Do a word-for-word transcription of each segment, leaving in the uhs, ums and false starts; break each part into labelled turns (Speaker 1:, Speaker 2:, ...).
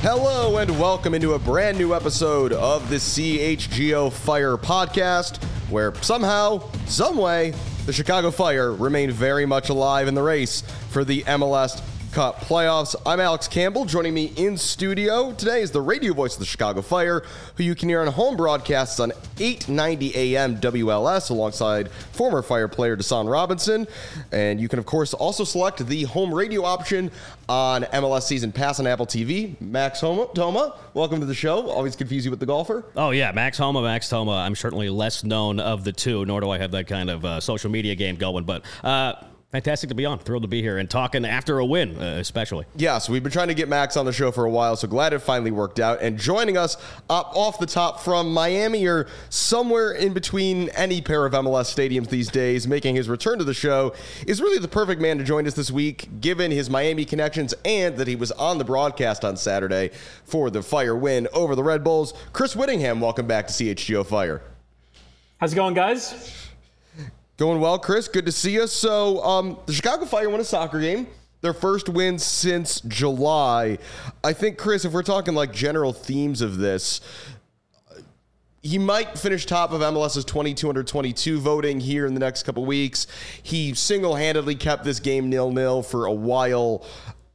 Speaker 1: Hello and welcome into a brand new episode of the C H G O Fire podcast, where somehow, someway, the Chicago Fire remain very much alive in the race for the M L S Cup playoffs. I'm Alex Campbell. Joining me in studio today is the radio voice of the Chicago Fire, who you can hear on home broadcasts on eight ninety A M W L S alongside former Fire player Deshaun Robinson. And you can, of course, also select the home radio option on M L S Season Pass on Apple T V. Max Homa, Toma, welcome to the show. Always confuse you with the golfer.
Speaker 2: Oh, yeah, Max Homa, Max Toma. I'm certainly less known of the two, nor do I have that kind of uh, social media game going. But uh, fantastic to be on. Thrilled to be here and talking after a win, uh, especially.
Speaker 1: Yeah, so we've been trying to get Max on the show for a while, so glad it finally worked out. And joining us up off the top from Miami, or somewhere in between any pair of M L S stadiums these days, making his return to the show, is really the perfect man to join us this week, given his Miami connections and that he was on the broadcast on Saturday for the Fire win over the Red Bulls. Chris Whittingham, welcome back to C H G O Fire.
Speaker 3: How's it going, guys?
Speaker 1: Going well, Chris. Good to see you. So, um, the Chicago Fire won a soccer game. Their first win since July. I think, Chris, if we're talking like general themes of this, he might finish top of M L S's twenty-two under twenty-two voting here in the next couple weeks. He single-handedly kept this game nil-nil for a while.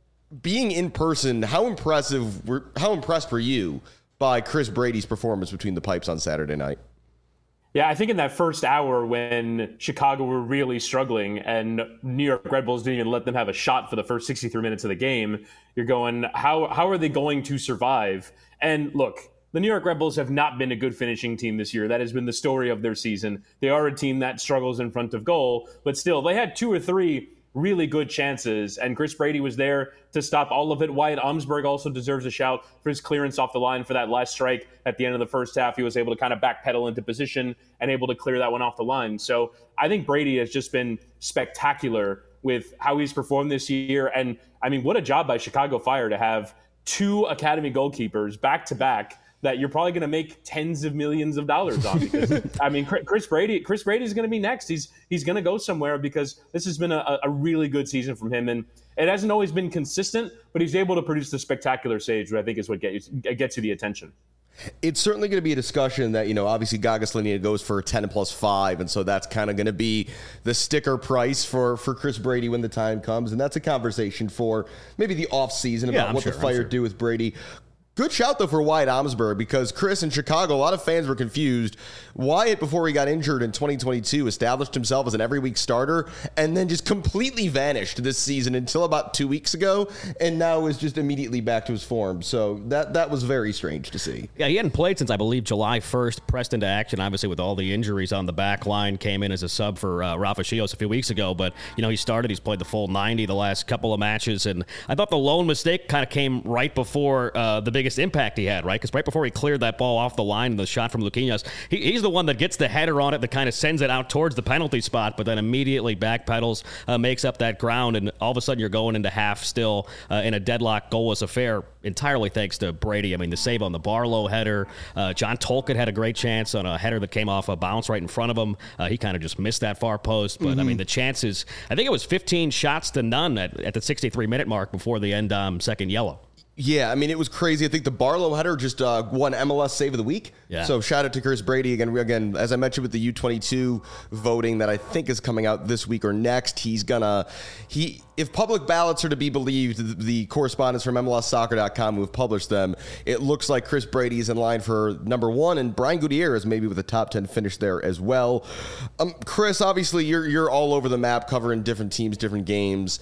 Speaker 1: Being in person, how impressive were, how impressed were you by Chris Brady's performance between the pipes on Saturday night?
Speaker 3: Yeah, I think in that first hour when Chicago were really struggling and New York Red Bulls didn't even let them have a shot for the first sixty-three minutes of the game, you're going, how how are they going to survive? And look, the New York Red Bulls have not been a good finishing team this year. That has been the story of their season. They are a team that struggles in front of goal, but still, they had two or three really good chances, and Chris Brady was there to stop all of it. Wyatt Omsberg also deserves a shout for his clearance off the line for that last strike at the end of the first half. He was able to kind of backpedal into position and able to clear that one off the line. So I think Brady has just been spectacular with how he's performed this year. And I mean, what a job by Chicago Fire to have two academy goalkeepers back to back that you're probably going to make tens of millions of dollars on, because I mean, Chris Brady, Chris Brady is going to be next. He's he's going to go somewhere, because this has been a, a really good season from him, and it hasn't always been consistent, but he's able to produce the spectacular saves, which I think is what gets gets you the attention.
Speaker 1: It's certainly going to be a discussion that, you know, obviously Gagas Linea goes for ten plus five, and so that's kind of going to be the sticker price for, for Chris Brady when the time comes, and that's a conversation for maybe the offseason about
Speaker 2: yeah,
Speaker 1: what
Speaker 2: sure,
Speaker 1: the Fire
Speaker 2: sure.
Speaker 1: do with Brady. Good shout, though, for Wyatt Omsberg, because Chris, in Chicago, a lot of fans were confused. Wyatt, before he got injured in twenty twenty-two, established himself as an every-week starter and then just completely vanished this season until about two weeks ago, and now is just immediately back to his form. So that that was very strange to see.
Speaker 2: Yeah, he hadn't played since, I believe, July first, pressed into action, obviously, with all the injuries on the back line, came in as a sub for uh, Rafa Chios a few weeks ago, but, you know, he started, he's played the full ninety the last couple of matches, and I thought the lone mistake kind of came right before uh, the biggest impact he had, right? Because right before he cleared that ball off the line, the shot from Luquinhas, he, he's the one that gets the header on it that kind of sends it out towards the penalty spot, but then immediately backpedals, uh, makes up that ground, and all of a sudden you're going into half still uh, in a deadlock goalless affair, entirely thanks to Brady. I mean, the save on the Barlow header, uh, John Tolkien had a great chance on a header that came off a bounce right in front of him. Uh, he kind of just missed that far post, but mm-hmm. I mean, the chances, I think it was fifteen shots to none at, at the sixty-three minute mark before the end um, second yellow.
Speaker 1: Yeah, I mean, it was crazy. I think the Barlow header just uh, won M L S Save of the Week.
Speaker 2: Yeah.
Speaker 1: So shout out to Chris Brady. Again, again, as I mentioned with the U twenty-two voting that I think is coming out this week or next, he's going to, he if public ballots are to be believed, the, the correspondents from M L S soccer dot com who have published them, it looks like Chris Brady is in line for number one, and Brian Gutierrez maybe with a top ten finish there as well. Um, Chris, obviously, you're you're all over the map covering different teams, different games.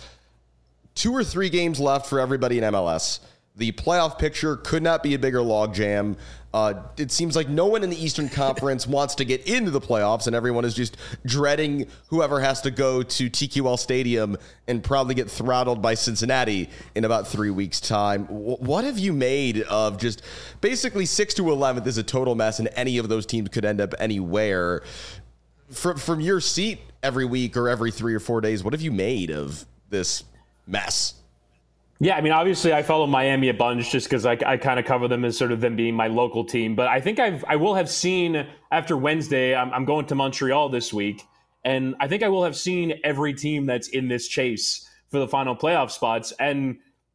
Speaker 1: Two or three games left for everybody in M L S. The playoff picture could not be a bigger logjam. Uh, it seems like no one in the Eastern Conference wants to get into the playoffs, and everyone is just dreading whoever has to go to T Q L Stadium and probably get throttled by Cincinnati in about three weeks' time. W- what have you made of just basically six to eleventh is a total mess, and any of those teams could end up anywhere? From, from your seat every week or every three or four days, what have you made of this mess?
Speaker 3: Yeah, I mean, obviously I follow Miami a bunch just because I, I kind of cover them as sort of them being my local team. But I think I've, I will have seen after Wednesday, I'm, I'm going to Montreal this week, and I think I will have seen every team that's in this chase for the final playoff spots. And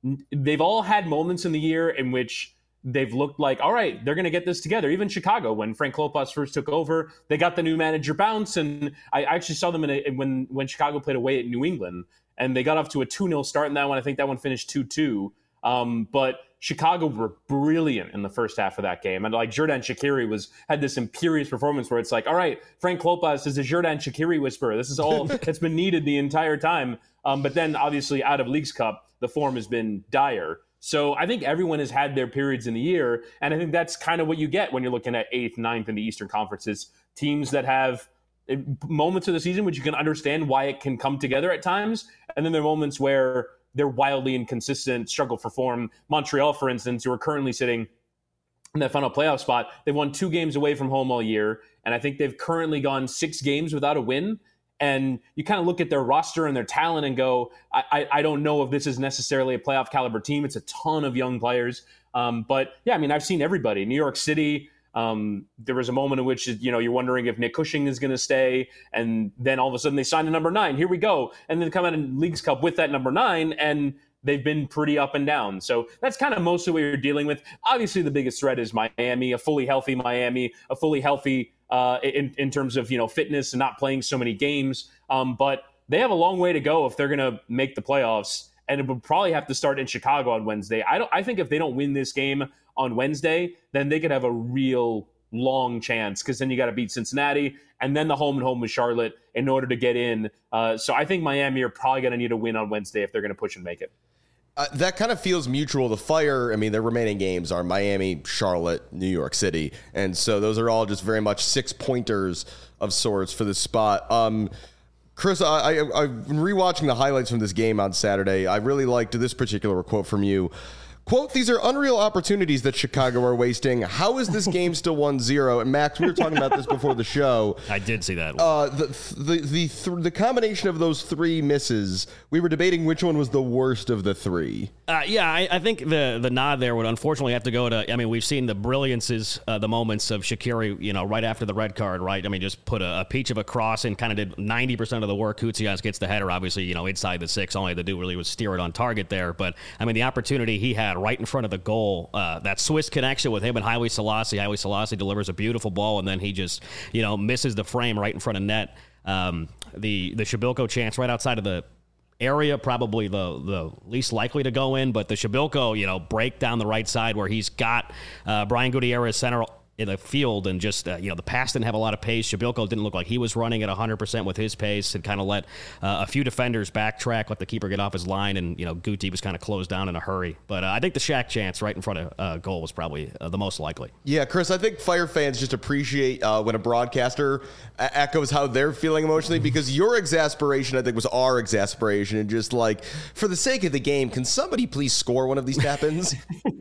Speaker 3: they've all had moments in the year in which they've looked like, all right, they're going to get this together. Even Chicago, when Frank Klopas first took over, they got the new manager bounce. And I actually saw them in a, when, when Chicago played away at New England, and they got off to a two nil start in that one. I think that one finished two two. Um, but Chicago were brilliant in the first half of that game. And like Xherdan Shaqiri was had this imperious performance where it's like, all right, Frank Klopas is a Xherdan Shaqiri whisperer. This is all that's been needed the entire time. Um, but then obviously out of Leagues Cup, the form has been dire. So I think everyone has had their periods in the year. And I think that's kind of what you get when you're looking at eighth, ninth in the Eastern Conferences. Teams that have moments of the season which you can understand why it can come together at times. And then there are moments where they're wildly inconsistent, struggle for form. Montreal, for instance, who are currently sitting in that final playoff spot, they've won two games away from home all year. And I think they've currently gone six games without a win. And you kind of look at their roster and their talent and go, I, I, I don't know if this is necessarily a playoff caliber team. It's a ton of young players. Um, but yeah, I mean, I've seen everybody. New York City, um, there was a moment in which, you know, you're wondering if Nick Cushing is going to stay. And then all of a sudden they sign a number nine. Here we go. And then they come out in Leagues Cup with that number nine. And they've been pretty up and down. So that's kind of mostly what you're dealing with. Obviously, the biggest threat is Miami, a fully healthy Miami, a fully healthy uh, in, in terms of, you know, fitness and not playing so many games. Um, but they have a long way to go if they're going to make the playoffs. And it would probably have to start in Chicago on Wednesday. I don't. I think if they don't win this game on Wednesday, then they could have a real long chance, because then you got to beat Cincinnati and then the home and home with Charlotte in order to get in. Uh, so I think Miami are probably going to need a win on Wednesday if they're going to push and make it.
Speaker 1: Uh, that kind of feels mutual. The Fire, I mean, their remaining games are Miami, Charlotte, New York City. And so those are all just very much six pointers of sorts for this spot. Um, Chris, I, I, I've been rewatching the highlights from this game on Saturday. I really liked this particular quote from you. Quote, "These are unreal opportunities that Chicago are wasting. How is this game still one zero? And Max, we were talking about this before the show.
Speaker 2: I did see that one.
Speaker 1: Uh, the the the, th- the combination of those three misses, we were debating which one was the worst of the three.
Speaker 2: Uh, yeah, I, I think the the nod there would unfortunately have to go to, I mean, we've seen the brilliances, uh, the moments of Shaqiri, you know, right after the red card, right? I mean, just put a, a peach of a cross and kind of did ninety percent of the work. Koutsias gets the header, obviously, you know, inside the six. All he had to do really was steer it on target there. But, I mean, the opportunity he had right in front of the goal, uh, that Swiss connection with him and Haile Selassie. Haile Selassie delivers a beautiful ball, and then he just, you know, misses the frame right in front of net. Um, the the Shabilko chance right outside of the area, probably the the least likely to go in, but the Shabilko, you know, break down the right side where he's got uh, Brian Gutierrez center in the field, and just, uh, you know, the pass didn't have a lot of pace. Shabilko didn't look like he was running at one hundred percent with his pace, and kind of let uh, a few defenders backtrack, let the keeper get off his line, and, you know, Guti was kind of closed down in a hurry. But uh, I think the Shaq chance right in front of uh, goal was probably uh, the most likely.
Speaker 1: Yeah, Chris, I think Fire fans just appreciate uh, when a broadcaster a- echoes how they're feeling emotionally, because your exasperation, I think, was our exasperation, and just like, for the sake of the game, can somebody please score one of these tap-ins?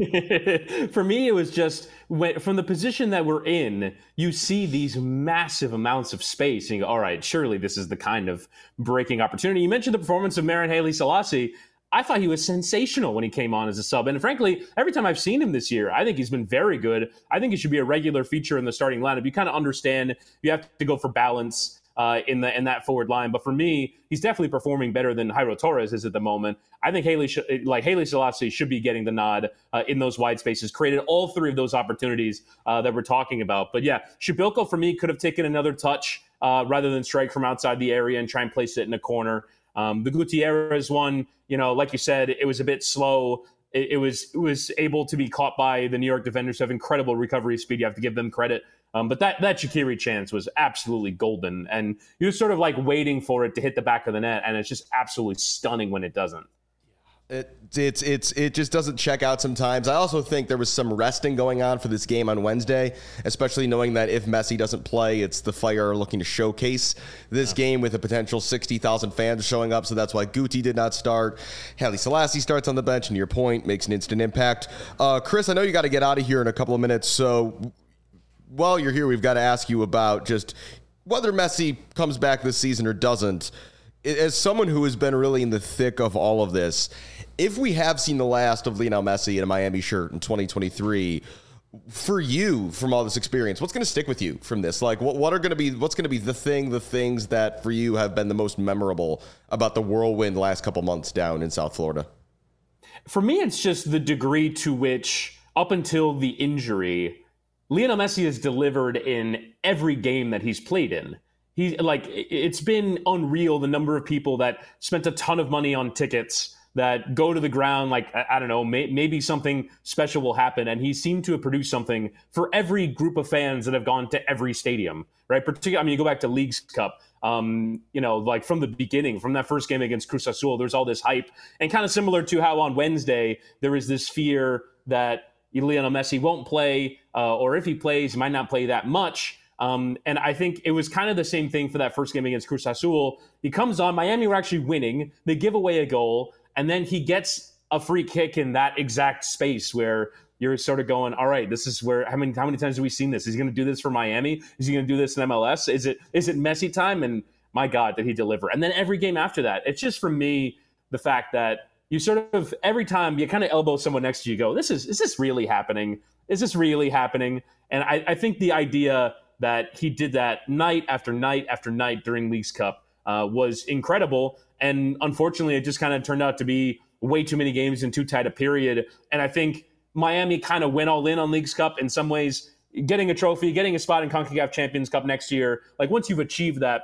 Speaker 3: For me, it was just, when, from the position that we're in, you see these massive amounts of space, and you go, all right, surely this is the kind of breaking opportunity. You mentioned the performance of Marin Haile Selassie. I thought he was sensational when he came on as a sub. And frankly, every time I've seen him this year, I think he's been very good. I think he should be a regular feature in the starting lineup. You kind of understand you have to go for balance Uh, in the in that forward line, but for me, he's definitely performing better than Jairo Torres is at the moment. I think Haile, sh- like Haile Selassie, should be getting the nod uh, in those wide spaces. Created all three of those opportunities uh, that we're talking about. But yeah, Shabilko for me could have taken another touch uh, rather than strike from outside the area and try and place it in a corner. Um, the Gutierrez one, you know, like you said, it was a bit slow. It, it was it was able to be caught by the New York defenders who have incredible recovery speed. You have to give them credit. Um, but that, that Shaqiri chance was absolutely golden. And he was sort of like waiting for it to hit the back of the net. And it's just absolutely stunning when it doesn't.
Speaker 1: It, it's it's it just doesn't check out sometimes. I also think there was some resting going on for this game on Wednesday, especially knowing that if Messi doesn't play, it's the Fire looking to showcase this yeah. game with a potential sixty thousand fans showing up. So that's why Guti did not start. Haile Selassie starts on the bench, and to your point, makes an instant impact. Uh, Chris, I know you got to get out of here in a couple of minutes, so while you're here, we've got to ask you about just whether Messi comes back this season or doesn't. As someone who has been really in the thick of all of this, if we have seen the last of Lionel Messi in a Miami shirt in twenty twenty-three, for you, from all this experience, what's going to stick with you from this? Like, what, what are going to be, what's going to be the thing, the things that for you have been the most memorable about the whirlwind last couple months down in South Florida?
Speaker 3: For me, it's just the degree to which, up until the injury, Lionel Messi has delivered in every game that he's played in. He like it's been unreal the number of people that spent a ton of money on tickets that go to the ground. Like, I, I don't know, may, maybe something special will happen. And he seemed to have produced something for every group of fans that have gone to every stadium, right? Particularly, I mean, you go back to Leagues Cup, um, you know, like from the beginning, from that first game against Cruz Azul, there's all this hype. And kind of similar to how on Wednesday, there is this fear that Lionel Messi won't play, uh, or if he plays, he might not play that much. Um, and I think it was kind of the same thing for that first game against Cruz Azul. He comes on, Miami were actually winning. They give away a goal, and then he gets a free kick in that exact space where you're sort of going, all right, this is where, how many how many times have we seen this? Is he going to do this for Miami? Is he going to do this in M L S? Is it is it Messi time? And my God, did he deliver? And then every game after that, it's just for me, the fact that you sort of, every time you kind of elbow someone next to you, go, this is, is this really happening? Is this really happening? And I, I think the idea that he did that night after night after night during Leagues Cup uh, was incredible. And unfortunately, it just kind of turned out to be way too many games in too tight a period. And I think Miami kind of went all in on Leagues Cup in some ways, getting a trophy, getting a spot in CONCACAF Champions Cup next year. Like, once you've achieved that,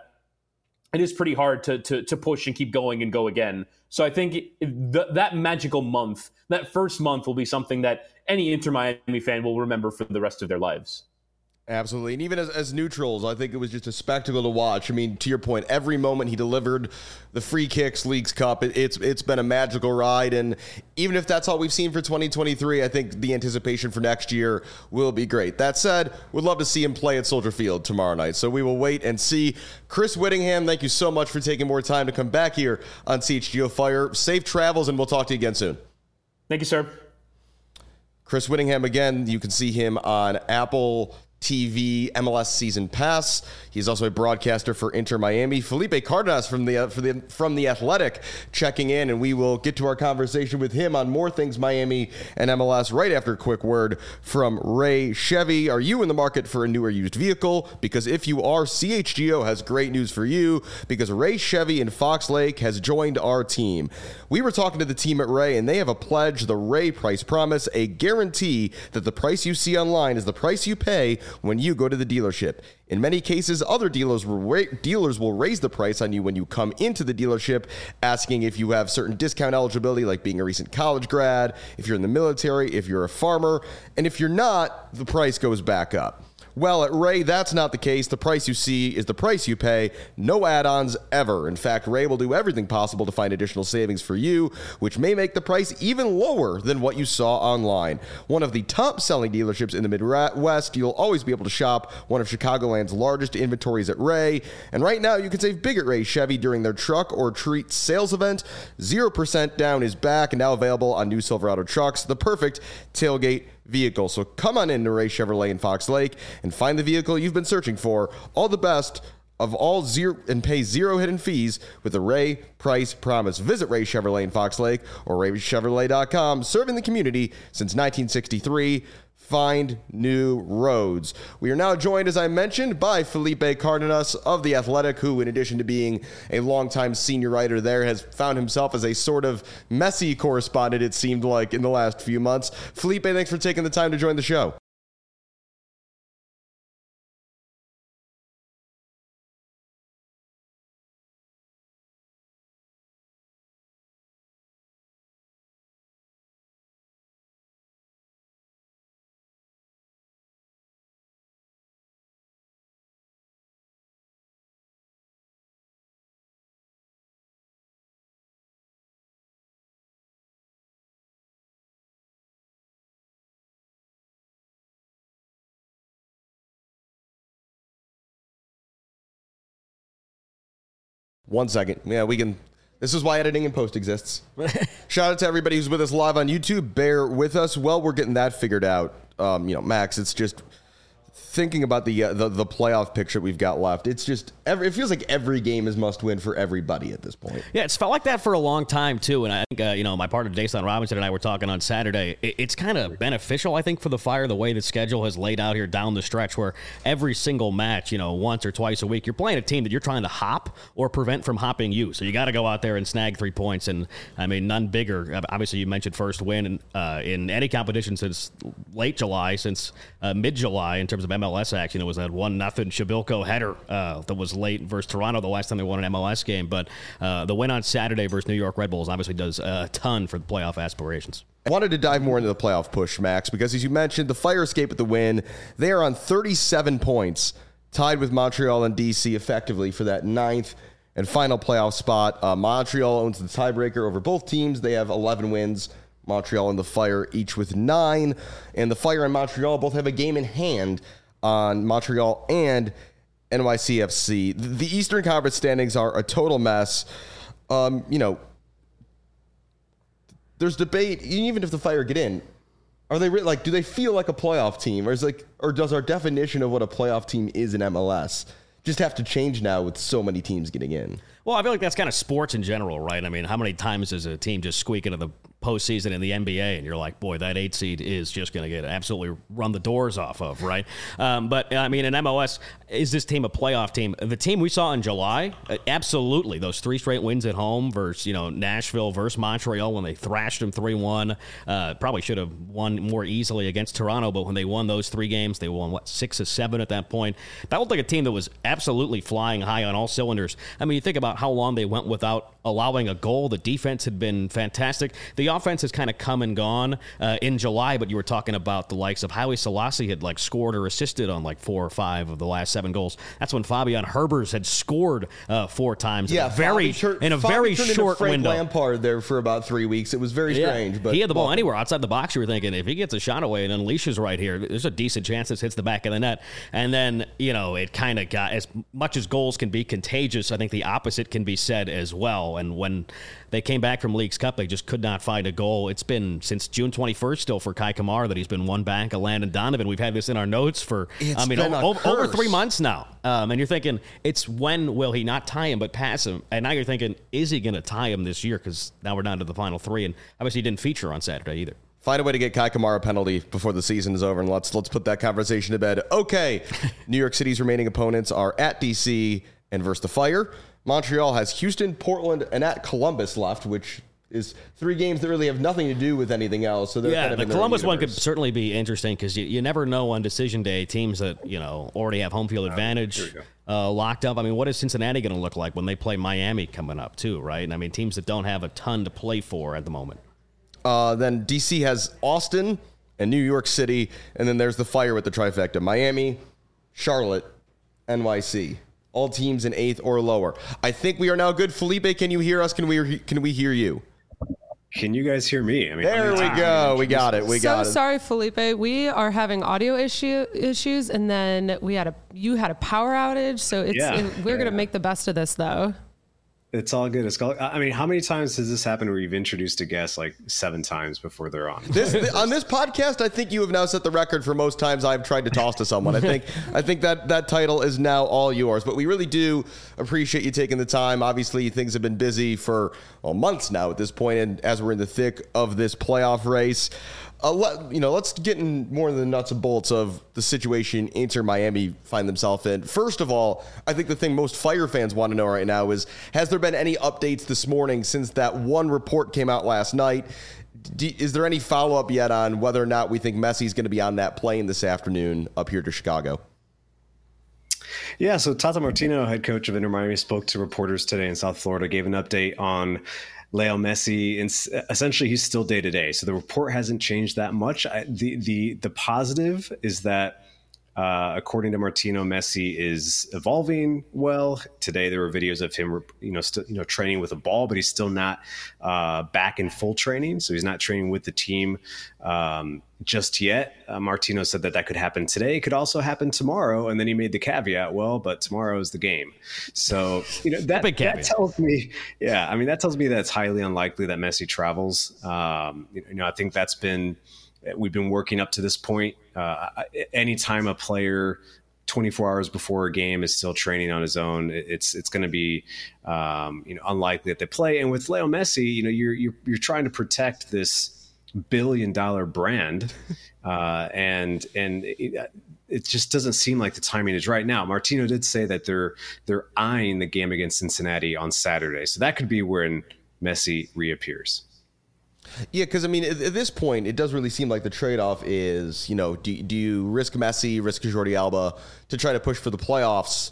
Speaker 3: it is pretty hard to to, to push and keep going and go again. So I think th- that magical month, that first month, will be something that any Inter Miami fan will remember for the rest of their lives.
Speaker 1: Absolutely. And even as, as neutrals, I think it was just a spectacle to watch. I mean, to your point, every moment he delivered, the free kicks, Leagues Cup, it, it's it's been a magical ride. And even if that's all we've seen for twenty twenty-three, I think the anticipation for next year will be great. That said, we'd love to see him play at Soldier Field tomorrow night. So we will wait and see. Chris Whittingham, thank you so much for taking more time to come back here on C H G O Fire. Safe travels, and we'll talk to you again soon.
Speaker 3: Thank you, sir.
Speaker 1: Chris Whittingham, again, you can see him on Apple T V, M L S Season Pass. He's also a broadcaster for Inter Miami. Felipe Cardenas from the, uh, for the from the Athletic checking in, and we will get to our conversation with him on more things Miami and M L S right after a quick word from Ray Chevy. Are you in the market for a new or used vehicle? Because if you are, C H G O has great news for you, because Ray Chevy in Fox Lake has joined our team. We were talking to the team at Ray, and they have a pledge, the Ray Price Promise, a guarantee that the price you see online is the price you pay when you go to the dealership. In many cases, other dealers will, ra- dealers will raise the price on you when you come into the dealership, asking if you have certain discount eligibility, like being a recent college grad, if you're in the military, if you're a farmer, and if you're not, the price goes back up. Well, at Ray, that's not the case. The price you see is the price you pay. No add-ons ever. In fact, Ray will do everything possible to find additional savings for you, which may make the price even lower than what you saw online. One of the top-selling dealerships in the Midwest, you'll always be able to shop one of Chicagoland's largest inventories at Ray. And right now, you can save big at Ray Chevy during their Truck or Treat sales event. zero percent down is back and now available on new Silverado trucks, the perfect tailgate vehicle. So come on in to Ray Chevrolet in Fox Lake and find the vehicle you've been searching for. All the best of all zero and pay zero hidden fees with the Ray Price Promise. Visit Ray Chevrolet in Fox Lake or ray chevrolet dot com, serving the community since nineteen sixty-three. Find new roads. We are now joined, as I mentioned, by Felipe Cardenas of The Athletic, who, in addition to being a longtime senior writer there, has found himself as a sort of messy correspondent, it seemed like, in the last few months. Felipe, thanks for taking the time to join the show. One second. Yeah, we can. This is why editing and post exists. Shout out to everybody who's with us live on YouTube. Bear with us. Well, we're getting that figured out. Um, you know, Max, it's just thinking about the, uh, the the playoff picture we've got left, it's just every, it feels like every game is must win for everybody at this point.
Speaker 2: Yeah, it's felt like that for a long time too, and I think uh, you know my partner Jason Robinson and I were talking on Saturday. It, it's kind of beneficial, I think, for the Fire the way the schedule has laid out here down the stretch, where every single match, you know, once or twice a week, you're playing a team that you're trying to hop or prevent from hopping you. So you got to go out there and snag three points, and I mean none bigger. Obviously, you mentioned first win in, uh, in any competition since late July, since uh, mid July in terms of M L S action. It was that one nothing Shabilko header uh, that was late versus Toronto the last time they won an M L S game. But uh, the win on Saturday versus New York Red Bulls obviously does a ton for the playoff aspirations.
Speaker 1: I wanted to dive more into the playoff push, Max, because as you mentioned, the Fire escape with the win. They are on thirty-seven points, tied with Montreal and D C effectively for that ninth and final playoff spot. Uh, Montreal owns the tiebreaker over both teams. They have eleven wins. Montreal and the Fire each with nine. And the Fire and Montreal both have a game in hand on Montreal and N Y C F C. The Eastern Conference standings are a total mess. Um, you know, there's debate, even if the Fire get in, are they re- like, do they feel like a playoff team? Or is like, or does our definition of what a playoff team is in M L S just have to change now with so many teams getting in?
Speaker 2: Well, I feel like that's kind of sports in general, right? I mean, how many times does a team just squeak into the postseason in the N B A, and you're like, boy, that eight seed is just going to get absolutely run the doors off of, right? Um, but, I mean, in M L S, is this team a playoff team? The team we saw in July, uh, absolutely. Those three straight wins at home versus, you know, Nashville versus Montreal when they thrashed them three one. Uh, probably should have won more easily against Toronto, but when they won those three games, they won, what, six or seven at that point. That looked like a team that was absolutely flying high on all cylinders. I mean, you think about how long they went without allowing a goal. The defense had been fantastic. The offense has kind of come and gone uh, in July, but you were talking about the likes of Haile Selassie had like scored or assisted on like four or five of the last seven goals. That's when Fabian Herbers had scored uh, four times
Speaker 1: yeah,
Speaker 2: in a very,
Speaker 1: tur-
Speaker 2: in a
Speaker 1: Fabi
Speaker 2: very
Speaker 1: turned
Speaker 2: short
Speaker 1: into Frank
Speaker 2: window.
Speaker 1: Lampard there for about three weeks. It was very
Speaker 2: Yeah.
Speaker 1: strange. But
Speaker 2: he had the ball
Speaker 1: well,
Speaker 2: anywhere outside the box. You were thinking, if he gets a shot away and unleashes right here, there's a decent chance this hits the back of the net. And then, you know, it kind of got, as much as goals can be contagious, I think the opposite can be said as well. And when they came back from Leagues Cup, they just could not find a goal. It's been since June twenty-first still for Kai Kamara that he's been one back of Landon Donovan. We've had this in our notes for,
Speaker 1: It's
Speaker 2: I mean,
Speaker 1: been
Speaker 2: o-
Speaker 1: a
Speaker 2: over
Speaker 1: curse.
Speaker 2: three months now. Um, and you're thinking, it's when will he not tie him but pass him? And now you're thinking, is he going to tie him this year? Because now we're down to the final three. And obviously he didn't feature on Saturday either.
Speaker 1: Find a way to get Kai Kamara a penalty before the season is over, and let's let's put that conversation to bed. Okay, New York City's remaining opponents are at D C and versus the Fire. Montreal has Houston, Portland, and at Columbus left, which is three games that really have nothing to do with anything else. So they're
Speaker 2: yeah,
Speaker 1: kind of
Speaker 2: the
Speaker 1: in their
Speaker 2: Columbus
Speaker 1: own
Speaker 2: one could
Speaker 1: universe.
Speaker 2: certainly be interesting because you, you never know on decision day teams that you know already have home field advantage uh, locked up. I mean, what is Cincinnati going to look like when they play Miami coming up too? Right? And I mean, teams that don't have a ton to play for at the moment.
Speaker 1: Uh, then D C has Austin and New York City, and then there's the Fire with the trifecta: Miami, Charlotte, N Y C. All teams in eighth or lower. I think we are now good. Felipe, can you hear us? Can we can we hear you?
Speaker 4: Can you guys hear me? I mean,
Speaker 1: There we go. We got it. We
Speaker 5: so
Speaker 1: got it.
Speaker 5: sorry, Felipe. We are having audio issue issues, and then we had a you had a power outage. So it's
Speaker 4: Yeah.
Speaker 5: it, we're
Speaker 4: Yeah.
Speaker 5: gonna make the best of this, though.
Speaker 4: It's all good. It's all, I mean, how many times has this happened where you've introduced a guest like seven times before they're on?
Speaker 1: This, th- on this podcast, I think you have now set the record for most times I've tried to toss to someone. I think I think that that title is now all yours. But we really do appreciate you taking the time. Obviously, things have been busy for well, months now at this point, and as we're in the thick of this playoff race, uh, let, you know, let's get in more of the nuts and bolts of the situation Inter Miami find themselves in. First of all, I think the thing most Fire fans want to know right now is, has there been any updates this morning since that one report came out last night? D- is there any follow-up yet on whether or not we think Messi's going to be on that plane this afternoon up here to Chicago?
Speaker 4: Yeah, so Tata Martino, head coach of Inter Miami, spoke to reporters today in South Florida, gave an update on Leo Messi, and essentially he's still day to day. So the report hasn't changed that much. I, the the the positive is that uh, according to Martino, Messi is evolving well. Today there were videos of him, you know, still you know training with a ball, but he's still not uh, back in full training. So he's not training with the team um, just yet. Uh, Martino said that that could happen today. It could also happen tomorrow. And then he made the caveat, well, but tomorrow is the game. So, you know, that,
Speaker 2: Big
Speaker 4: that
Speaker 2: caveat.
Speaker 4: tells me, yeah, I mean, that tells me that it's highly unlikely that Messi travels. Um, you know, I think that's been, we've been working up to this point uh, anytime a player twenty-four hours before a game is still training on his own, it's it's going to be um, you know unlikely that they play. And with Leo Messi, you know you're you're you're trying to protect this billion dollar brand, uh, and and. It, it just doesn't seem like the timing is right now. Martino did say that they're they're eyeing the game against Cincinnati on Saturday, so that could be when Messi reappears.
Speaker 1: Yeah, because I mean, at, at this point, it does really seem like the trade-off is, you know, do, do you risk Messi, risk Jordi Alba to try to push for the playoffs,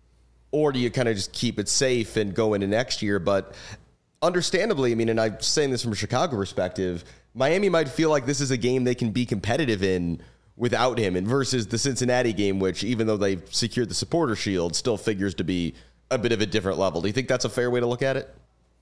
Speaker 1: or do you kind of just keep it safe and go into next year? But understandably, I mean, and I'm saying this from a Chicago perspective, Miami might feel like this is a game they can be competitive in without him, and versus the Cincinnati game, which even though they've secured the supporter shield, still figures to be a bit of a different level. Do you think that's a fair way to look at it?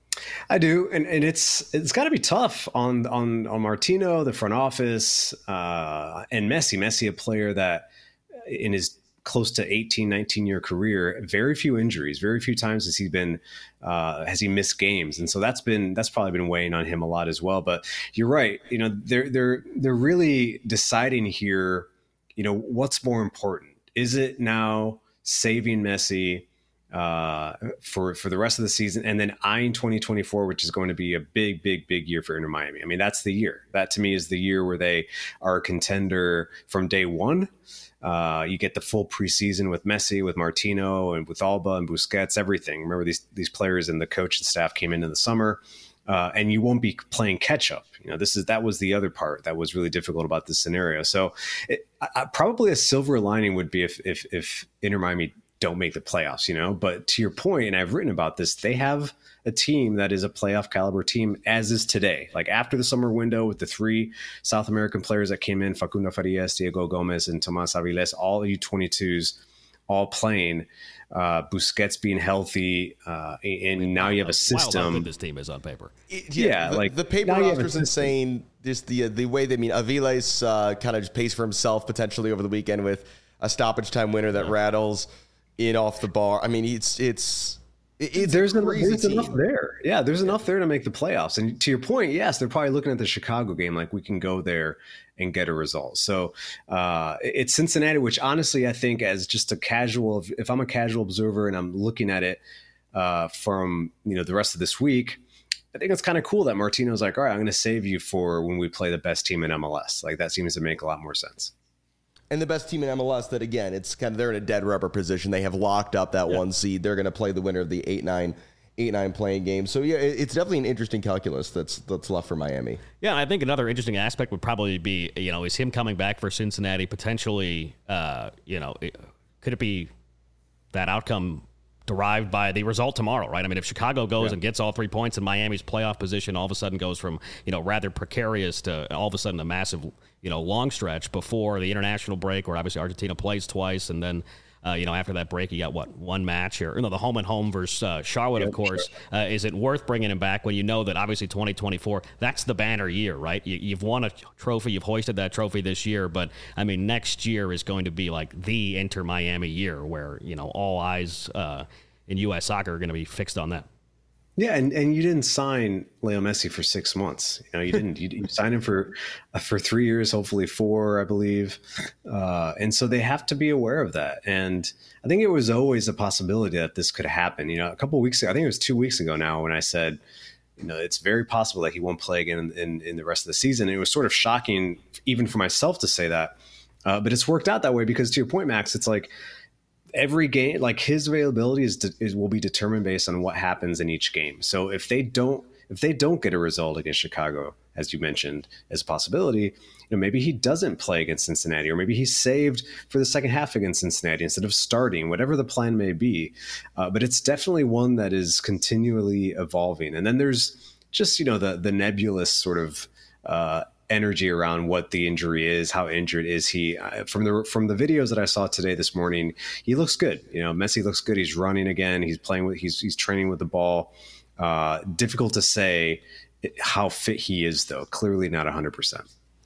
Speaker 4: I do, and and it's it's got to be tough on on on Martino, the front office, uh, and Messi. Messi, a player that in his close to eighteen, nineteen year career, very few injuries, very few times has he been uh, has he missed games, and so that's been that's probably been weighing on him a lot as well. But you're right, you know they're they're they're really deciding here, you know what's more important. Is it now saving Messi uh, for for the rest of the season, and then eyeing twenty twenty-four, which is going to be a big, big, big year for Inter Miami? I mean, that's the year. That to me is the year where they are a contender from day one. Uh, you get the full preseason with Messi, with Martino, and with Alba and Busquets, everything. Remember, these these players and the coach and staff came in in the summer, uh, and you won't be playing catch up. You know, this is that was the other part that was really difficult about this scenario. So, it, I, probably a silver lining would be if if if Inter Miami don't make the playoffs. You know, but to your point, and I've written about this, they have a team that is a playoff caliber team as is today. Like after the summer window with the three South American players that came in, Facundo Farias, Diego Gomez, and Tomas Aviles, all U twenty-twos, all playing, uh, Busquets being healthy. Uh, and now you have a system.
Speaker 2: Wow, how good this team is on paper.
Speaker 1: It, yeah,
Speaker 4: yeah
Speaker 1: the,
Speaker 4: like
Speaker 1: the paper roster is insane. Just the, the way they I mean, Aviles uh, kind of just pays for himself potentially over the weekend with a stoppage time winner that yeah. rattles in off the bar. I mean, it's, it's, It's
Speaker 4: there's, enough, there's enough there. Yeah, there's enough there to make the playoffs. And to your point, yes, they're probably looking at the Chicago game like we can go there and get a result. So uh, it's Cincinnati, which honestly, I think as just a casual, if I'm a casual observer and I'm looking at it uh, from you know the rest of this week, I think it's kind of cool that Martino's like, all right, I'm going to save you for when we play the best team in M L S. Like that seems to make a lot more sense.
Speaker 1: And the best team in M L S that, again, it's kind of, they're in a dead rubber position. They have locked up that yeah. one seed. They're going to play the winner of the eight nine playing game. So, yeah, it's definitely an interesting calculus that's that's left for Miami.
Speaker 2: Yeah, and I think another interesting aspect would probably be, you know, is him coming back for Cincinnati potentially, uh, you know, could it be that outcome derived by the result tomorrow, right? I mean, if Chicago goes yeah. and gets all three points and Miami's playoff position all of a sudden goes from, you know, rather precarious to all of a sudden a massive, you know, long stretch before the international break where obviously Argentina plays twice. And then, uh, you know, after that break, you got what, one match here, you know, the home and home versus uh, Charlotte, yeah, of course. Sure. Uh, is it worth bringing him back when you know that obviously twenty twenty-four, that's the banner year, right? You, you've won a trophy, you've hoisted that trophy this year, but I mean, next year is going to be like the Inter Miami year where, you know, all eyes, uh, in U S soccer are going to be fixed on that.
Speaker 4: Yeah, and, and you didn't sign Leo Messi for six months. You know, you didn't. You, you signed him for uh, for three years, hopefully four, I believe. Uh, and so they have to be aware of that. And I think it was always a possibility that this could happen. You know, a couple of weeks ago, I think it was two weeks ago now, when I said, you know, it's very possible that he won't play again in, in, in the rest of the season. It was sort of shocking, even for myself, to say that. Uh, but it's worked out that way because, to your point, Max, it's like, every game, like his availability is, is will be determined based on what happens in each game. So if they don't, if they don't get a result against Chicago, as you mentioned, as a possibility, you know, maybe he doesn't play against Cincinnati, or maybe he's saved for the second half against Cincinnati instead of starting, whatever the plan may be. Uh, but it's definitely one that is continually evolving. And then there's just, you know, the, the nebulous sort of, uh, energy around what the injury is, how injured is he. Uh, from the from the videos that I saw today this morning, he looks good. You know, Messi looks good. He's running again. He's playing with. He's he's training with the ball. Uh, difficult to say how fit he is, though. Clearly not one hundred percent.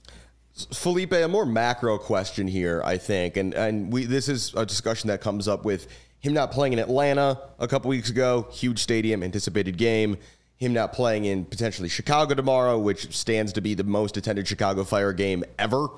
Speaker 1: Felipe, a more macro question here, I think, and and we this is a discussion that comes up with him not playing in Atlanta a couple weeks ago. Huge stadium, anticipated game. Him not playing in potentially Chicago tomorrow, which stands to be the most attended Chicago Fire game ever.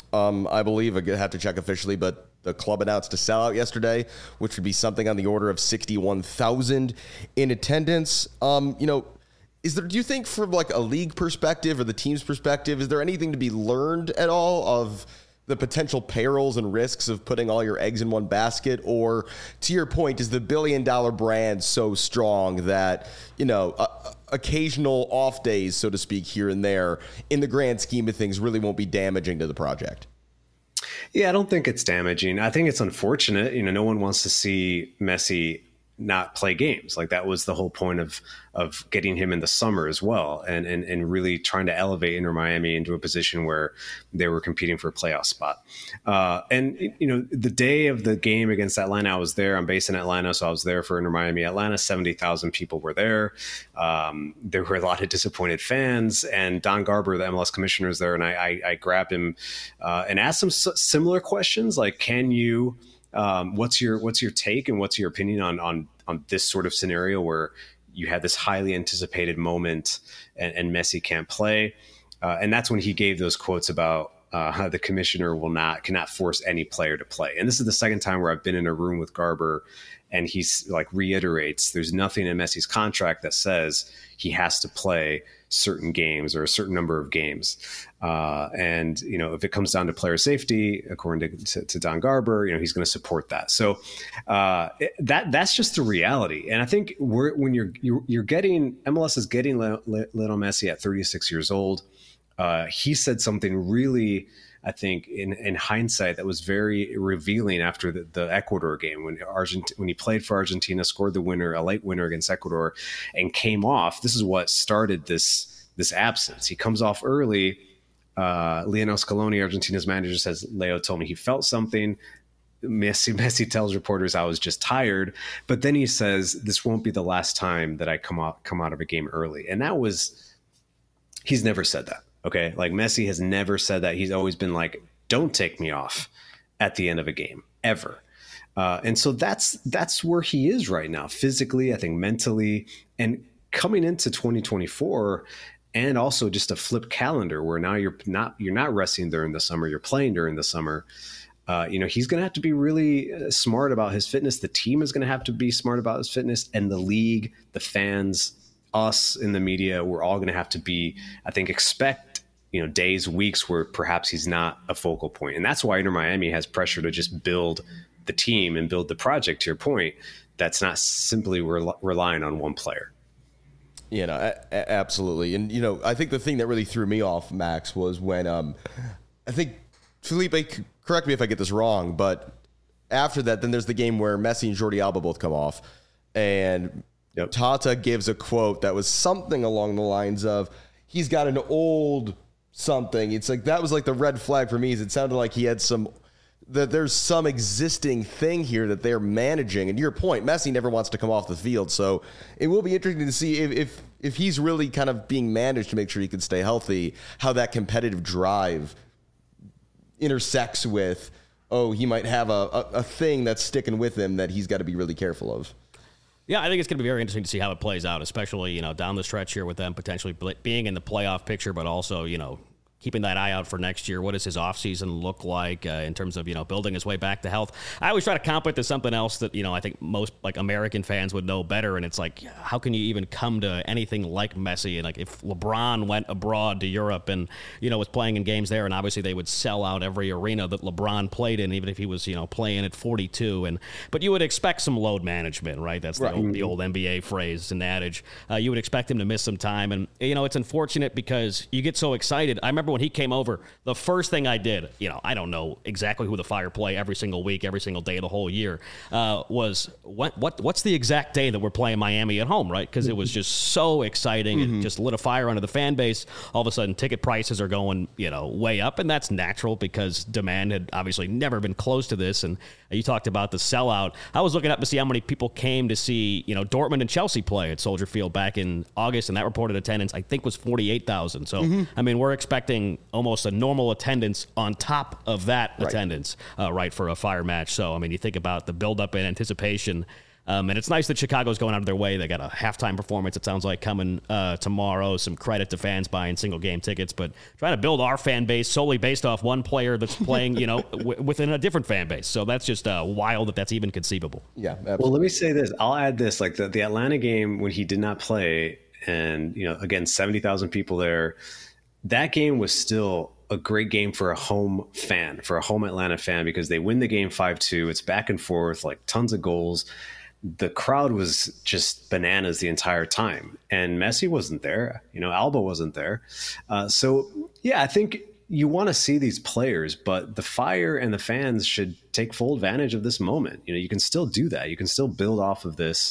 Speaker 1: Um, I believe I have to check officially, but the club announced a sellout yesterday, which would be something on the order of sixty-one thousand in attendance. Um, you know, is there? Do you think, from like a league perspective or the team's perspective, is there anything to be learned at all of the potential perils and risks of putting all your eggs in one basket? Or, to your point, is the billion dollar brand so strong that, you know, uh, occasional off days, so to speak, here and there, in the grand scheme of things, really won't be damaging to the project?
Speaker 4: Yeah, I don't think it's damaging. I think it's unfortunate. You know, no one wants to see Messi not play games. Like, that was the whole point of of getting him in the summer as well, and and and really trying to elevate Inter Miami into a position where they were competing for a playoff spot. Uh, and you know, the day of the game against Atlanta, I was there. I'm based in Atlanta, so I was there for Inter Miami Atlanta. seventy thousand people were there. Um, there were a lot of disappointed fans, and Don Garber, the M L S commissioner, is there, and I, I, I grabbed him uh, and asked him s- similar questions like, "Can you?" Um, what's your what's your take and what's your opinion on on on this sort of scenario where you had this highly anticipated moment and, and Messi can't play? Uh, and that's when he gave those quotes about uh, how the commissioner will not cannot force any player to play. And this is the second time where I've been in a room with Garber, and he's like reiterates there's nothing in Messi's contract that says he has to play certain games or a certain number of games. Uh, and, you know, if it comes down to player safety, according to, to, to Don Garber, you know, he's going to support that. So uh, it, that that's just the reality. And I think we're, when you're, you're, you're getting, M L S is getting Lionel Messi at thirty-six years old. Uh, he said something really, I think, in, in hindsight, that was very revealing after the, the Ecuador game when Argent- when he played for Argentina, scored the winner, a late winner against Ecuador, and came off. This is what started this this absence. He comes off early. Uh, Lionel Scaloni, Argentina's manager, says, Leo told me he felt something. Messi, Messi tells reporters, I was just tired. But then he says, this won't be the last time that I come out, come out of a game early. And that was, he's never said that. Okay. Like, Messi has never said that. He's always been like, don't take me off at the end of a game ever. Uh, and so that's, that's where he is right now, physically, I think mentally, and coming into twenty twenty-four, and also just a flip calendar where now you're not, you're not resting during the summer, you're playing during the summer. Uh, you know, he's going to have to be really uh, smart about his fitness. The team is going to have to be smart about his fitness, and the league, the fans, us in the media, we're all going to have to be, I think, expect, you know, days, weeks where perhaps he's not a focal point. And that's why Inter Miami has pressure to just build the team and build the project, to your point, that's not simply re- relying on one player.
Speaker 1: You know, a- a- absolutely. And, you know, I think the thing that really threw me off, Max, was when um, I think Felipe, correct me if I get this wrong, but after that, then there's the game where Messi and Jordi Alba both come off. And yep. Tata gives a quote that was something along the lines of, he's got an old something. It's like, that was like the red flag for me, is it sounded like he had some, that there's some existing thing here that they're managing. And to your point, Messi never wants to come off the field. So it will be interesting to see if, if, if he's really kind of being managed to make sure he can stay healthy, how that competitive drive intersects with, oh, he might have a, a, a thing that's sticking with him that he's got to be really careful of.
Speaker 2: Yeah, I think it's going to be very interesting to see how it plays out, especially, you know, down the stretch here with them potentially being in the playoff picture, but also, you know, keeping that eye out for next year. What does his offseason look like uh, in terms of, you know, building his way back to health? I always try to comp it to something else that, you know, I think most, like, American fans would know better. And it's like, how can you even come to anything like Messi? And, like, if LeBron went abroad to Europe and, you know, was playing in games there, and obviously they would sell out every arena that LeBron played in, even if he was, you know, playing at forty-two. And But you would expect some load management, right? That's right. The, old, the old N B A phrase and adage. Uh, you would expect him to miss some time. And, you know, it's unfortunate because you get so excited. I remember when he came over, the first thing I did, you know, I don't know exactly who the Fire play every single week, every single day of the whole year, uh, was what what what's the exact day that we're playing Miami at home, right? Because it was just so exciting. Mm-hmm. It just lit a fire under the fan base. All of a sudden, ticket prices are going, you know, way up, and that's natural because demand had obviously never been close to this. And you talked about the sellout. I was looking up to see how many people came to see, you know, Dortmund and Chelsea play at Soldier Field back in August, and that reported attendance, I think, was forty-eight thousand. So, mm-hmm. I mean, we're expecting almost a normal attendance on top of that right. attendance, uh, right, for a Fire match. So, I mean, you think about the buildup and anticipation. Um, and it's nice that Chicago's going out of their way. They got a halftime performance, it sounds like, coming uh, tomorrow. Some credit to fans buying single game tickets, but trying to build our fan base solely based off one player that's playing, you know, w- within a different fan base. So that's just uh, wild that that's even conceivable.
Speaker 1: Yeah. Absolutely.
Speaker 4: Well, let me say this. I'll add this. Like the, the Atlanta game when he did not play, and, you know, again, seventy thousand people there, that game was still a great game for a home fan, for a home Atlanta fan, because they win the game five two. It's back and forth, like tons of goals. The crowd was just bananas the entire time, and Messi wasn't there. You know, Alba wasn't there. Uh, so, yeah, I think you want to see these players, but the Fire and the fans should take full advantage of this moment. You know, you can still do that. You can still build off of this.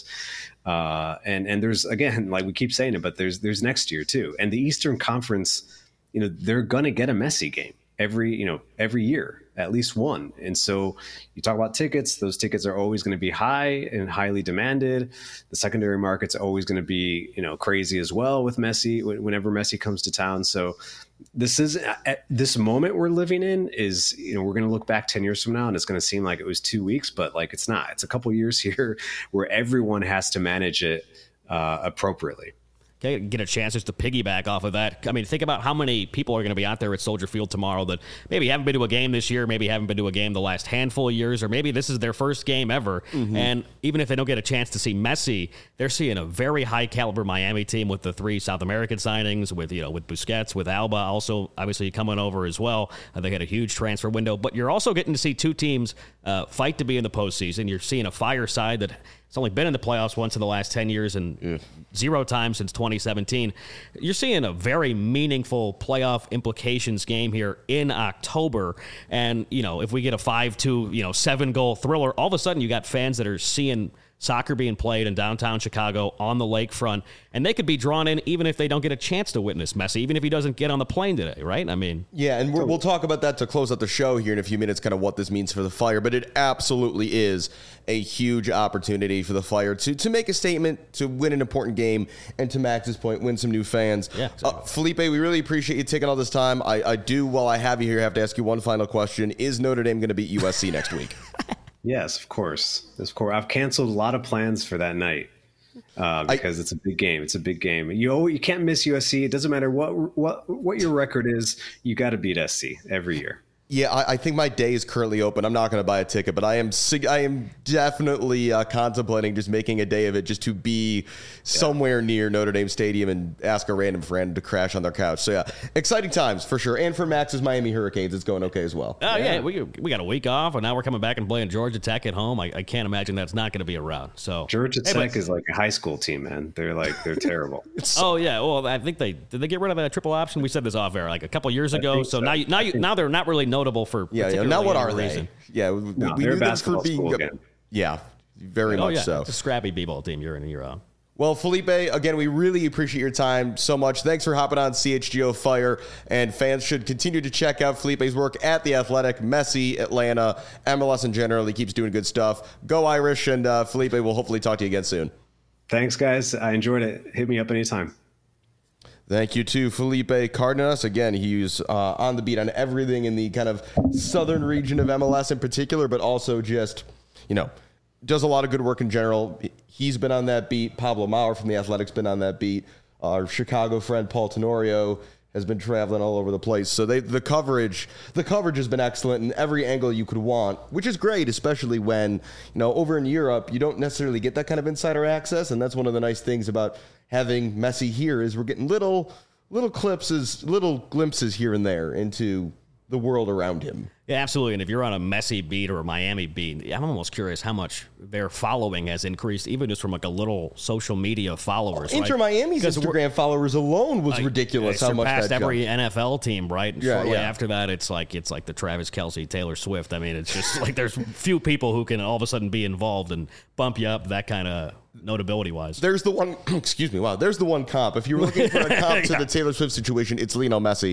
Speaker 4: Uh, and and there's, again, like we keep saying it, but there's there's next year too. And the Eastern Conference, you know, they're going to get a Messi game every, you know, every year, at least one. And so you talk about tickets, those tickets are always going to be high and highly demanded. The secondary market's always going to be, you know, crazy as well with Messi, whenever Messi comes to town. So this is, at this moment we're living in is, you know, we're going to look back ten years from now and it's going to seem like it was two weeks, but like, it's not. It's a couple years here where everyone has to manage it uh, appropriately.
Speaker 2: Okay, get a chance just to piggyback off of that. I mean, think about how many people are going to be out there at Soldier Field tomorrow that maybe haven't been to a game this year, maybe haven't been to a game the last handful of years, or maybe this is their first game ever. Mm-hmm. And even if they don't get a chance to see Messi, they're seeing a very high caliber Miami team with the three South American signings, with, you know, with Busquets, with Alba also obviously coming over as well. Uh, they had a huge transfer window, but you're also getting to see two teams uh, fight to be in the postseason. You're seeing a Fire side that it's only been in the playoffs once in the last ten years and yeah. zero times since twenty seventeen. You're seeing a very meaningful playoff implications game here in October. And, you know, if we get a five two, you know, seven goal thriller, all of a sudden you got fans that are seeing soccer being played in downtown Chicago on the lakefront, and they could be drawn in even if they don't get a chance to witness Messi, even if he doesn't get on the plane today, right? I mean,
Speaker 1: yeah, and we're, we'll talk about that to close out the show here in a few minutes, kind of what this means for the Fire, but it absolutely is a huge opportunity for the Fire to to make a statement, to win an important game, and to Max's point, win some new fans.
Speaker 2: Yeah, exactly.
Speaker 1: uh, Felipe, we really appreciate you taking all this time. I, I do, while I have you here, have to ask you one final question. Is Notre Dame going to beat U S C next week?
Speaker 4: Yes, of course. Of course. I've canceled a lot of plans for that night uh, because I, it's a big game. It's a big game. You you can't miss U S C. It doesn't matter what what what your record is. You got to beat S C every year.
Speaker 1: Yeah, I, I think my day is currently open. I'm not going to buy a ticket, but I am I am definitely uh, contemplating just making a day of it, just to be yeah. somewhere near Notre Dame Stadium and ask a random friend to crash on their couch. So yeah, exciting times for sure. And for Max's Miami Hurricanes, it's going okay as well.
Speaker 2: Oh yeah, yeah we we got a week off, and now we're coming back and playing Georgia Tech at home. I, I can't imagine that's not going to be around. So
Speaker 4: Georgia
Speaker 2: hey,
Speaker 4: Tech
Speaker 2: but,
Speaker 4: is like a high school team, man. They're like they're terrible.
Speaker 2: Oh yeah, well I think they did they get rid of that triple option. We said this off air like a couple years ago. So, so now you, now you, now they're not really notable for.
Speaker 1: Yeah, yeah. Now what are they? Reason. Yeah, we,
Speaker 4: no,
Speaker 1: we
Speaker 4: knew
Speaker 1: them for being.
Speaker 4: Again.
Speaker 1: Yeah, very
Speaker 2: oh,
Speaker 1: much
Speaker 2: yeah.
Speaker 1: so.
Speaker 2: It's a scrappy b-ball team year in and year out.
Speaker 1: Well, Felipe, again, we really appreciate your time so much. Thanks for hopping on C H G O Fire, and fans should continue to check out Felipe's work at The Athletic, Messi, Atlanta, M L S in general. He keeps doing good stuff. Go Irish, and uh, Felipe, we'll hopefully talk to you again soon.
Speaker 4: Thanks, guys. I enjoyed it. Hit me up anytime.
Speaker 1: Thank you to Felipe Cardenas. Again, he's uh, on the beat on everything in the kind of southern region of M L S in particular, but also just, you know, does a lot of good work in general. He's been on that beat. Pablo Maurer from The Athletic's been on that beat. Our Chicago friend Paul Tenorio has been traveling all over the place. So they, the coverage, the coverage has been excellent in every angle you could want, which is great, especially when, you know, over in Europe, you don't necessarily get that kind of insider access. And that's one of the nice things about having Messi here is we're getting little, little clips, little glimpses here and there into the world around him.
Speaker 2: Yeah, absolutely. And if you're on a Messi beat or a Miami beat, I'm almost curious how much their following has increased, even just from like a little social media followers.
Speaker 1: Inter right? Miami's Instagram followers alone was
Speaker 2: like,
Speaker 1: ridiculous. How much that
Speaker 2: surpassed every
Speaker 1: jumped.
Speaker 2: N F L team, right? And
Speaker 1: yeah,
Speaker 2: shortly
Speaker 1: yeah.
Speaker 2: after that, it's like it's like the Travis Kelce, Taylor Swift. I mean, it's just like there's few people who can all of a sudden be involved and bump you up that kind of notability wise.
Speaker 1: There's the one. Excuse me. Wow. There's the one comp. If you were looking for a comp to
Speaker 2: yeah.
Speaker 1: the Taylor Swift situation, it's Lionel Messi.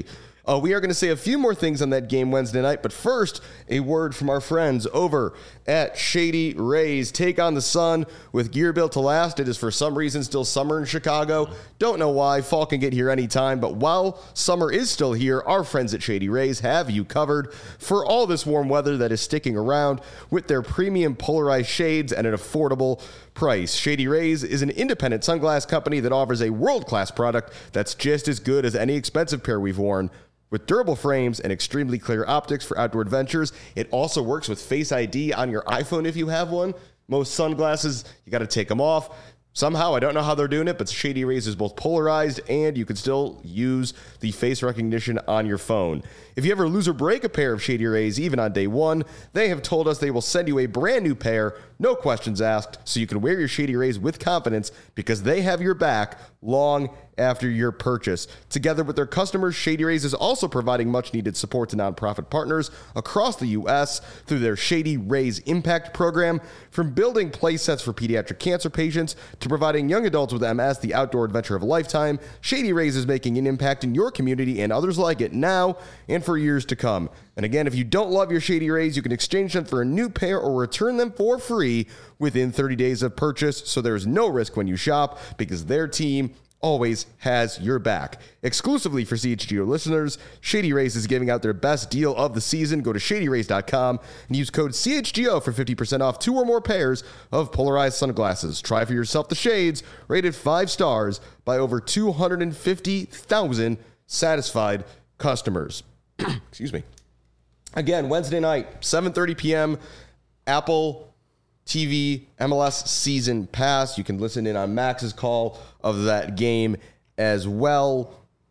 Speaker 1: Uh, we are going to say a few more things on that game Wednesday night, but first, a word from our friends over at Shady Rays. Take on the sun with gear built to last. It is for some reason still summer in Chicago. Don't know why. Fall can get here anytime, but while summer is still here, our friends at Shady Rays have you covered for all this warm weather that is sticking around with their premium polarized shades at an affordable price. Shady Rays is an independent sunglass company that offers a world-class product that's just as good as any expensive pair we've worn. With durable frames and extremely clear optics for outdoor adventures, it also works with Face I D on your iPhone if you have one. Most sunglasses, you got to take them off. Somehow, I don't know how they're doing it, but Shady Rays is both polarized and you can still use the face recognition on your phone. If you ever lose or break a pair of Shady Rays, even on day one, they have told us they will send you a brand new pair, no questions asked, so you can wear your Shady Rays with confidence because they have your back long after your purchase. Together with their customers, Shady Rays is also providing much-needed support to nonprofit partners across the U S through their Shady Rays Impact program. From building play sets for pediatric cancer patients to providing young adults with M S the outdoor adventure of a lifetime, Shady Rays is making an impact in your community and others like it now and for years to come. And again, if you don't love your Shady Rays, you can exchange them for a new pair or return them for free within thirty days of purchase, so there's no risk when you shop because their team always has your back. Exclusively for C H G O listeners, Shady Rays is giving out their best deal of the season. Go to shady rays dot com and use code C H G O for fifty percent off two or more pairs of polarized sunglasses. Try for yourself the shades, rated five stars by over two hundred fifty thousand satisfied customers. Excuse me. Again, Wednesday night, seven thirty p.m., Apple T V M L S Season Pass. You can listen in on Max's call of that game as well.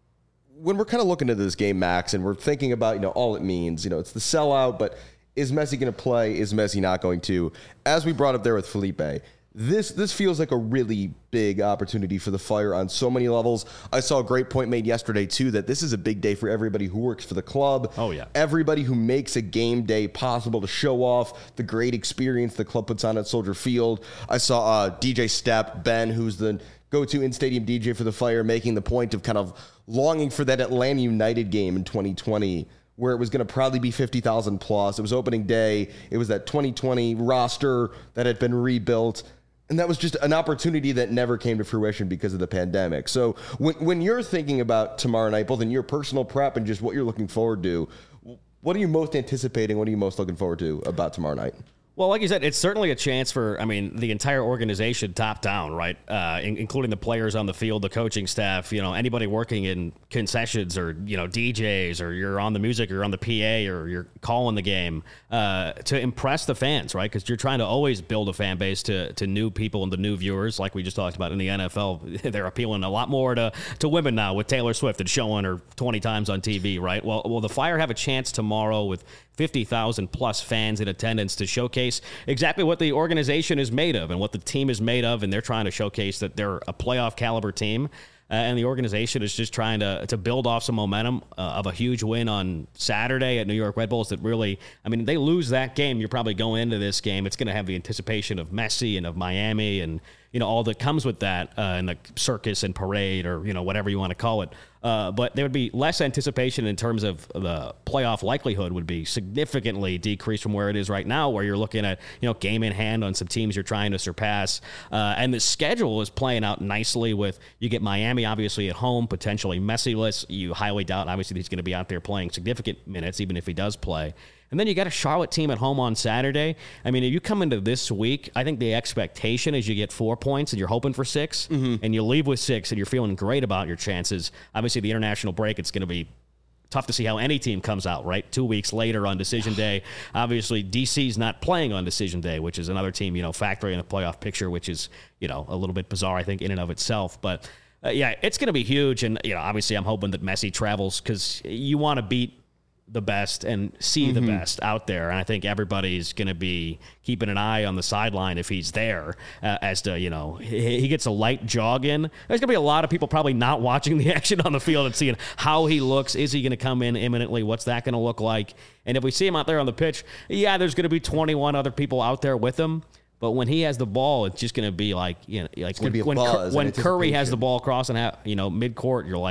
Speaker 1: When we're kind of looking at this game, Max, and we're thinking about, you know, all it means, you know, it's the sellout, but is Messi going to play? Is Messi not going to? As we brought up there with Felipe, This this feels like a really big opportunity for the Fire on so many levels. I saw a great point made yesterday, too, that this is a big day for everybody who works for the club.
Speaker 2: Oh, yeah.
Speaker 1: Everybody who makes a game day possible to show off the great experience the club puts on at Soldier Field. I saw uh, D J Step, Ben, who's the go-to in-stadium D J for the Fire, making the point of kind of longing for that Atlanta United game in twenty twenty, where it was going to probably be fifty thousand plus. It was opening day. It was that twenty twenty roster that had been rebuilt. And that was just an opportunity that never came to fruition because of the pandemic. So when when you're thinking about tomorrow night, both in your personal prep and just what you're looking forward to, what are you most anticipating? What are you most looking forward to about tomorrow night?
Speaker 2: Well, like you said, it's certainly a chance for, I mean, the entire organization top down, right? Uh, in, including the players on the field, the coaching staff, you know, anybody working in concessions or, you know, D Js, or you're on the music or on the P A or you're calling the game, uh, to impress the fans, right? Because you're trying to always build a fan base to, to new people and the new viewers, like we just talked about in the N F L. They're appealing a lot more to, to women now with Taylor Swift and showing her twenty times on T V, right? Well, well, the Fire have a chance tomorrow with fifty thousand plus fans in attendance to showcase exactly what the organization is made of and what the team is made of, and they're trying to showcase that they're a playoff caliber team, uh, and the organization is just trying to to build off some momentum uh, of a huge win on Saturday at New York Red Bulls that really, I mean, they lose that game, you're probably going into this game, it's going to have the anticipation of Messi and of Miami and, you know, all that comes with that, uh, and the circus and parade, or, you know, whatever you want to call it. Uh, but there would be less anticipation in terms of the playoff likelihood would be significantly decreased from where it is right now, where you're looking at, you know, game in hand on some teams you're trying to surpass. Uh, and the schedule is playing out nicely with, you get Miami obviously at home, potentially Messi-less. You highly doubt, obviously, he's going to be out there playing significant minutes, even if he does play. And then you got a Charlotte team at home on Saturday. I mean, if you come into this week, I think the expectation is you get four points and you're hoping for six, mm-hmm. and you leave with six and you're feeling great about your chances. Obviously, the international break, it's going to be tough to see how any team comes out, right? Two weeks later on decision day. Obviously, D C's not playing on decision day, which is another team, you know, factoring in the playoff picture, which is, you know, a little bit bizarre, I think, in and of itself. But, uh, yeah, it's going to be huge. And, you know, obviously, I'm hoping that Messi travels because you want to beat the best and see mm-hmm. the best out there. And I think everybody's going to be keeping an eye on the sideline if he's there, uh, as to, you know, he, he gets a light jog in. There's going to be a lot of people probably not watching the action on the field and seeing how he looks. Is he going to come in imminently? What's that going to look like? And if we see him out there on the pitch, yeah, there's going to be twenty-one other people out there with him. But when he has the ball, it's just going to be like, you know, like when, when,
Speaker 1: buzz,
Speaker 2: when Curry has the ball crossing out, you know, mid-court, you're like,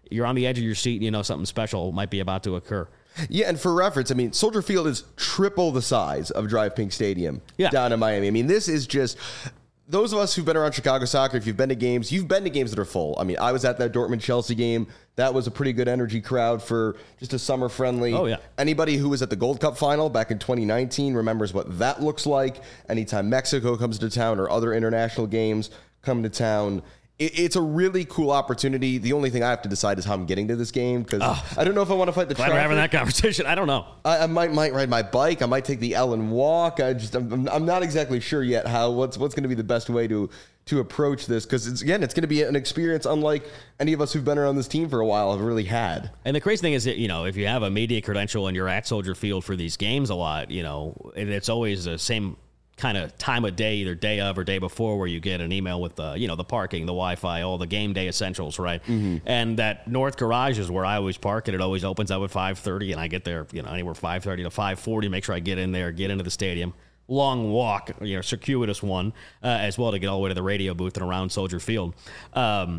Speaker 2: you're on the edge of your seat and you know something special might be about to occur.
Speaker 1: Yeah, and for reference, I mean, Soldier Field is triple the size of Drive Pink Stadium
Speaker 2: yeah.
Speaker 1: down in Miami. I mean, this is just... Those of us who've been around Chicago soccer, if you've been to games, you've been to games that are full. I mean, I was at that Dortmund-Chelsea game. That was a pretty good energy crowd for just a summer-friendly.
Speaker 2: Oh, yeah.
Speaker 1: Anybody who was at the Gold Cup final back in twenty nineteen remembers what that looks like. Anytime Mexico comes to town or other international games come to town, it, it's a really cool opportunity. The only thing I have to decide is how I'm getting to this game because oh, I don't know if I want to fight the
Speaker 2: glad
Speaker 1: traffic.
Speaker 2: We're having that conversation. I don't know.
Speaker 1: I, I might might ride my bike. I might take the Ellen walk. I just I'm, I'm not exactly sure yet how what's what's going to be the best way to to approach this because it's again it's going to be an experience unlike any of us who've been around this team for a while have really had.
Speaker 2: And the crazy thing is that, you know, if you have a media credential and you're at Soldier Field for these games a lot, you know, it's always the same kind of time of day, either day of or day before, where you get an email with the, you know, the parking, the Wi-Fi, all the game day essentials, right? Mm-hmm. And that North Garage is where I always park, and it always opens up at five thirty, and I get there, you know, anywhere five thirty to five forty, make sure I get in there, get into the stadium. Long walk, you know, circuitous one, uh, as well to get all the way to the radio booth and around Soldier Field. Um,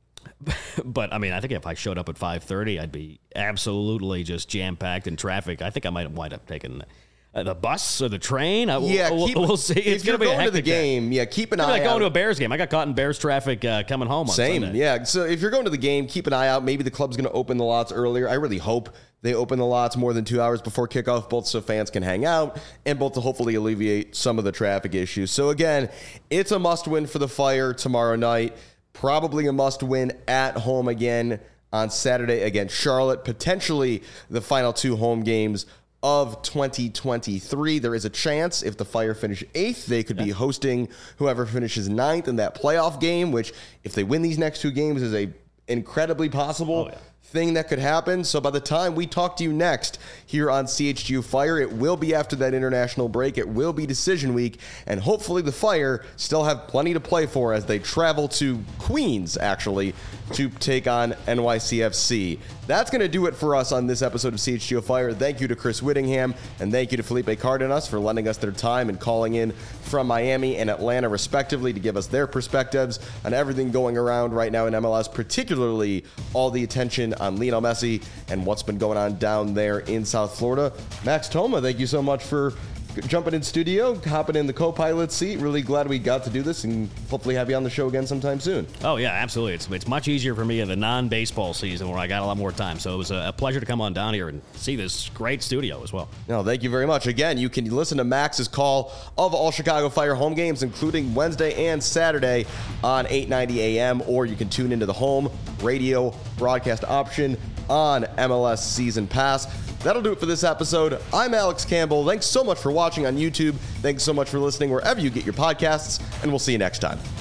Speaker 2: but, I mean, I think if I showed up at five thirty, I'd be absolutely just jam-packed in traffic. I think I might wind up taking Uh, the bus or the train? Uh,
Speaker 1: yeah,
Speaker 2: we'll,
Speaker 1: keep,
Speaker 2: we'll see. It's
Speaker 1: if you're
Speaker 2: gonna be
Speaker 1: going
Speaker 2: a
Speaker 1: to the game,
Speaker 2: day.
Speaker 1: yeah, keep an
Speaker 2: it's
Speaker 1: eye
Speaker 2: like
Speaker 1: out.
Speaker 2: going to a Bears game. I got caught in Bears traffic uh, coming home on
Speaker 1: Same,
Speaker 2: Sunday.
Speaker 1: yeah. So if you're going to the game, keep an eye out. Maybe the club's going to open the lots earlier. I really hope they open the lots more than two hours before kickoff, both so fans can hang out and both to hopefully alleviate some of the traffic issues. So again, it's a must-win for the Fire tomorrow night. Probably a must-win at home again on Saturday against Charlotte. Potentially the final two home games of twenty twenty-three. There is a chance if the Fire finish eighth, they could be hosting whoever finishes ninth in that playoff game, which if they win these next two games is a incredibly possible
Speaker 2: oh, yeah.
Speaker 1: thing that could happen. So by the time we talk to you next here on C H G O Fire, it will be after that international break. It will be decision week, and hopefully the Fire still have plenty to play for as they travel to Queens, actually, to take on N Y C F C. That's going to do it for us on this episode of C H G O Fire. Thank you to Chris Whittingham, and thank you to Felipe Cardenas for lending us their time and calling in from Miami and Atlanta, respectively, to give us their perspectives on everything going around right now in M L S, particularly all the attention on Lionel Messi and what's been going on down there in South Florida. Max Toma, thank you so much for jumping in studio, hopping in the co-pilot seat. Really glad we got to do this and hopefully have you on the show again sometime soon.
Speaker 2: Oh, yeah, absolutely. It's it's much easier for me in the non-baseball season where I got a lot more time. So it was a, a pleasure to come on down here and see this great studio as well.
Speaker 1: No, thank you very much. Again, you can listen to Max's call of all Chicago Fire home games, including Wednesday and Saturday on eight ninety A M, or you can tune into the home radio broadcast option on M L S Season Pass. That'll do it for this episode. I'm Alex Campbell. Thanks so much for watching on YouTube. Thanks so much for listening wherever you get your podcasts, and we'll see you next time.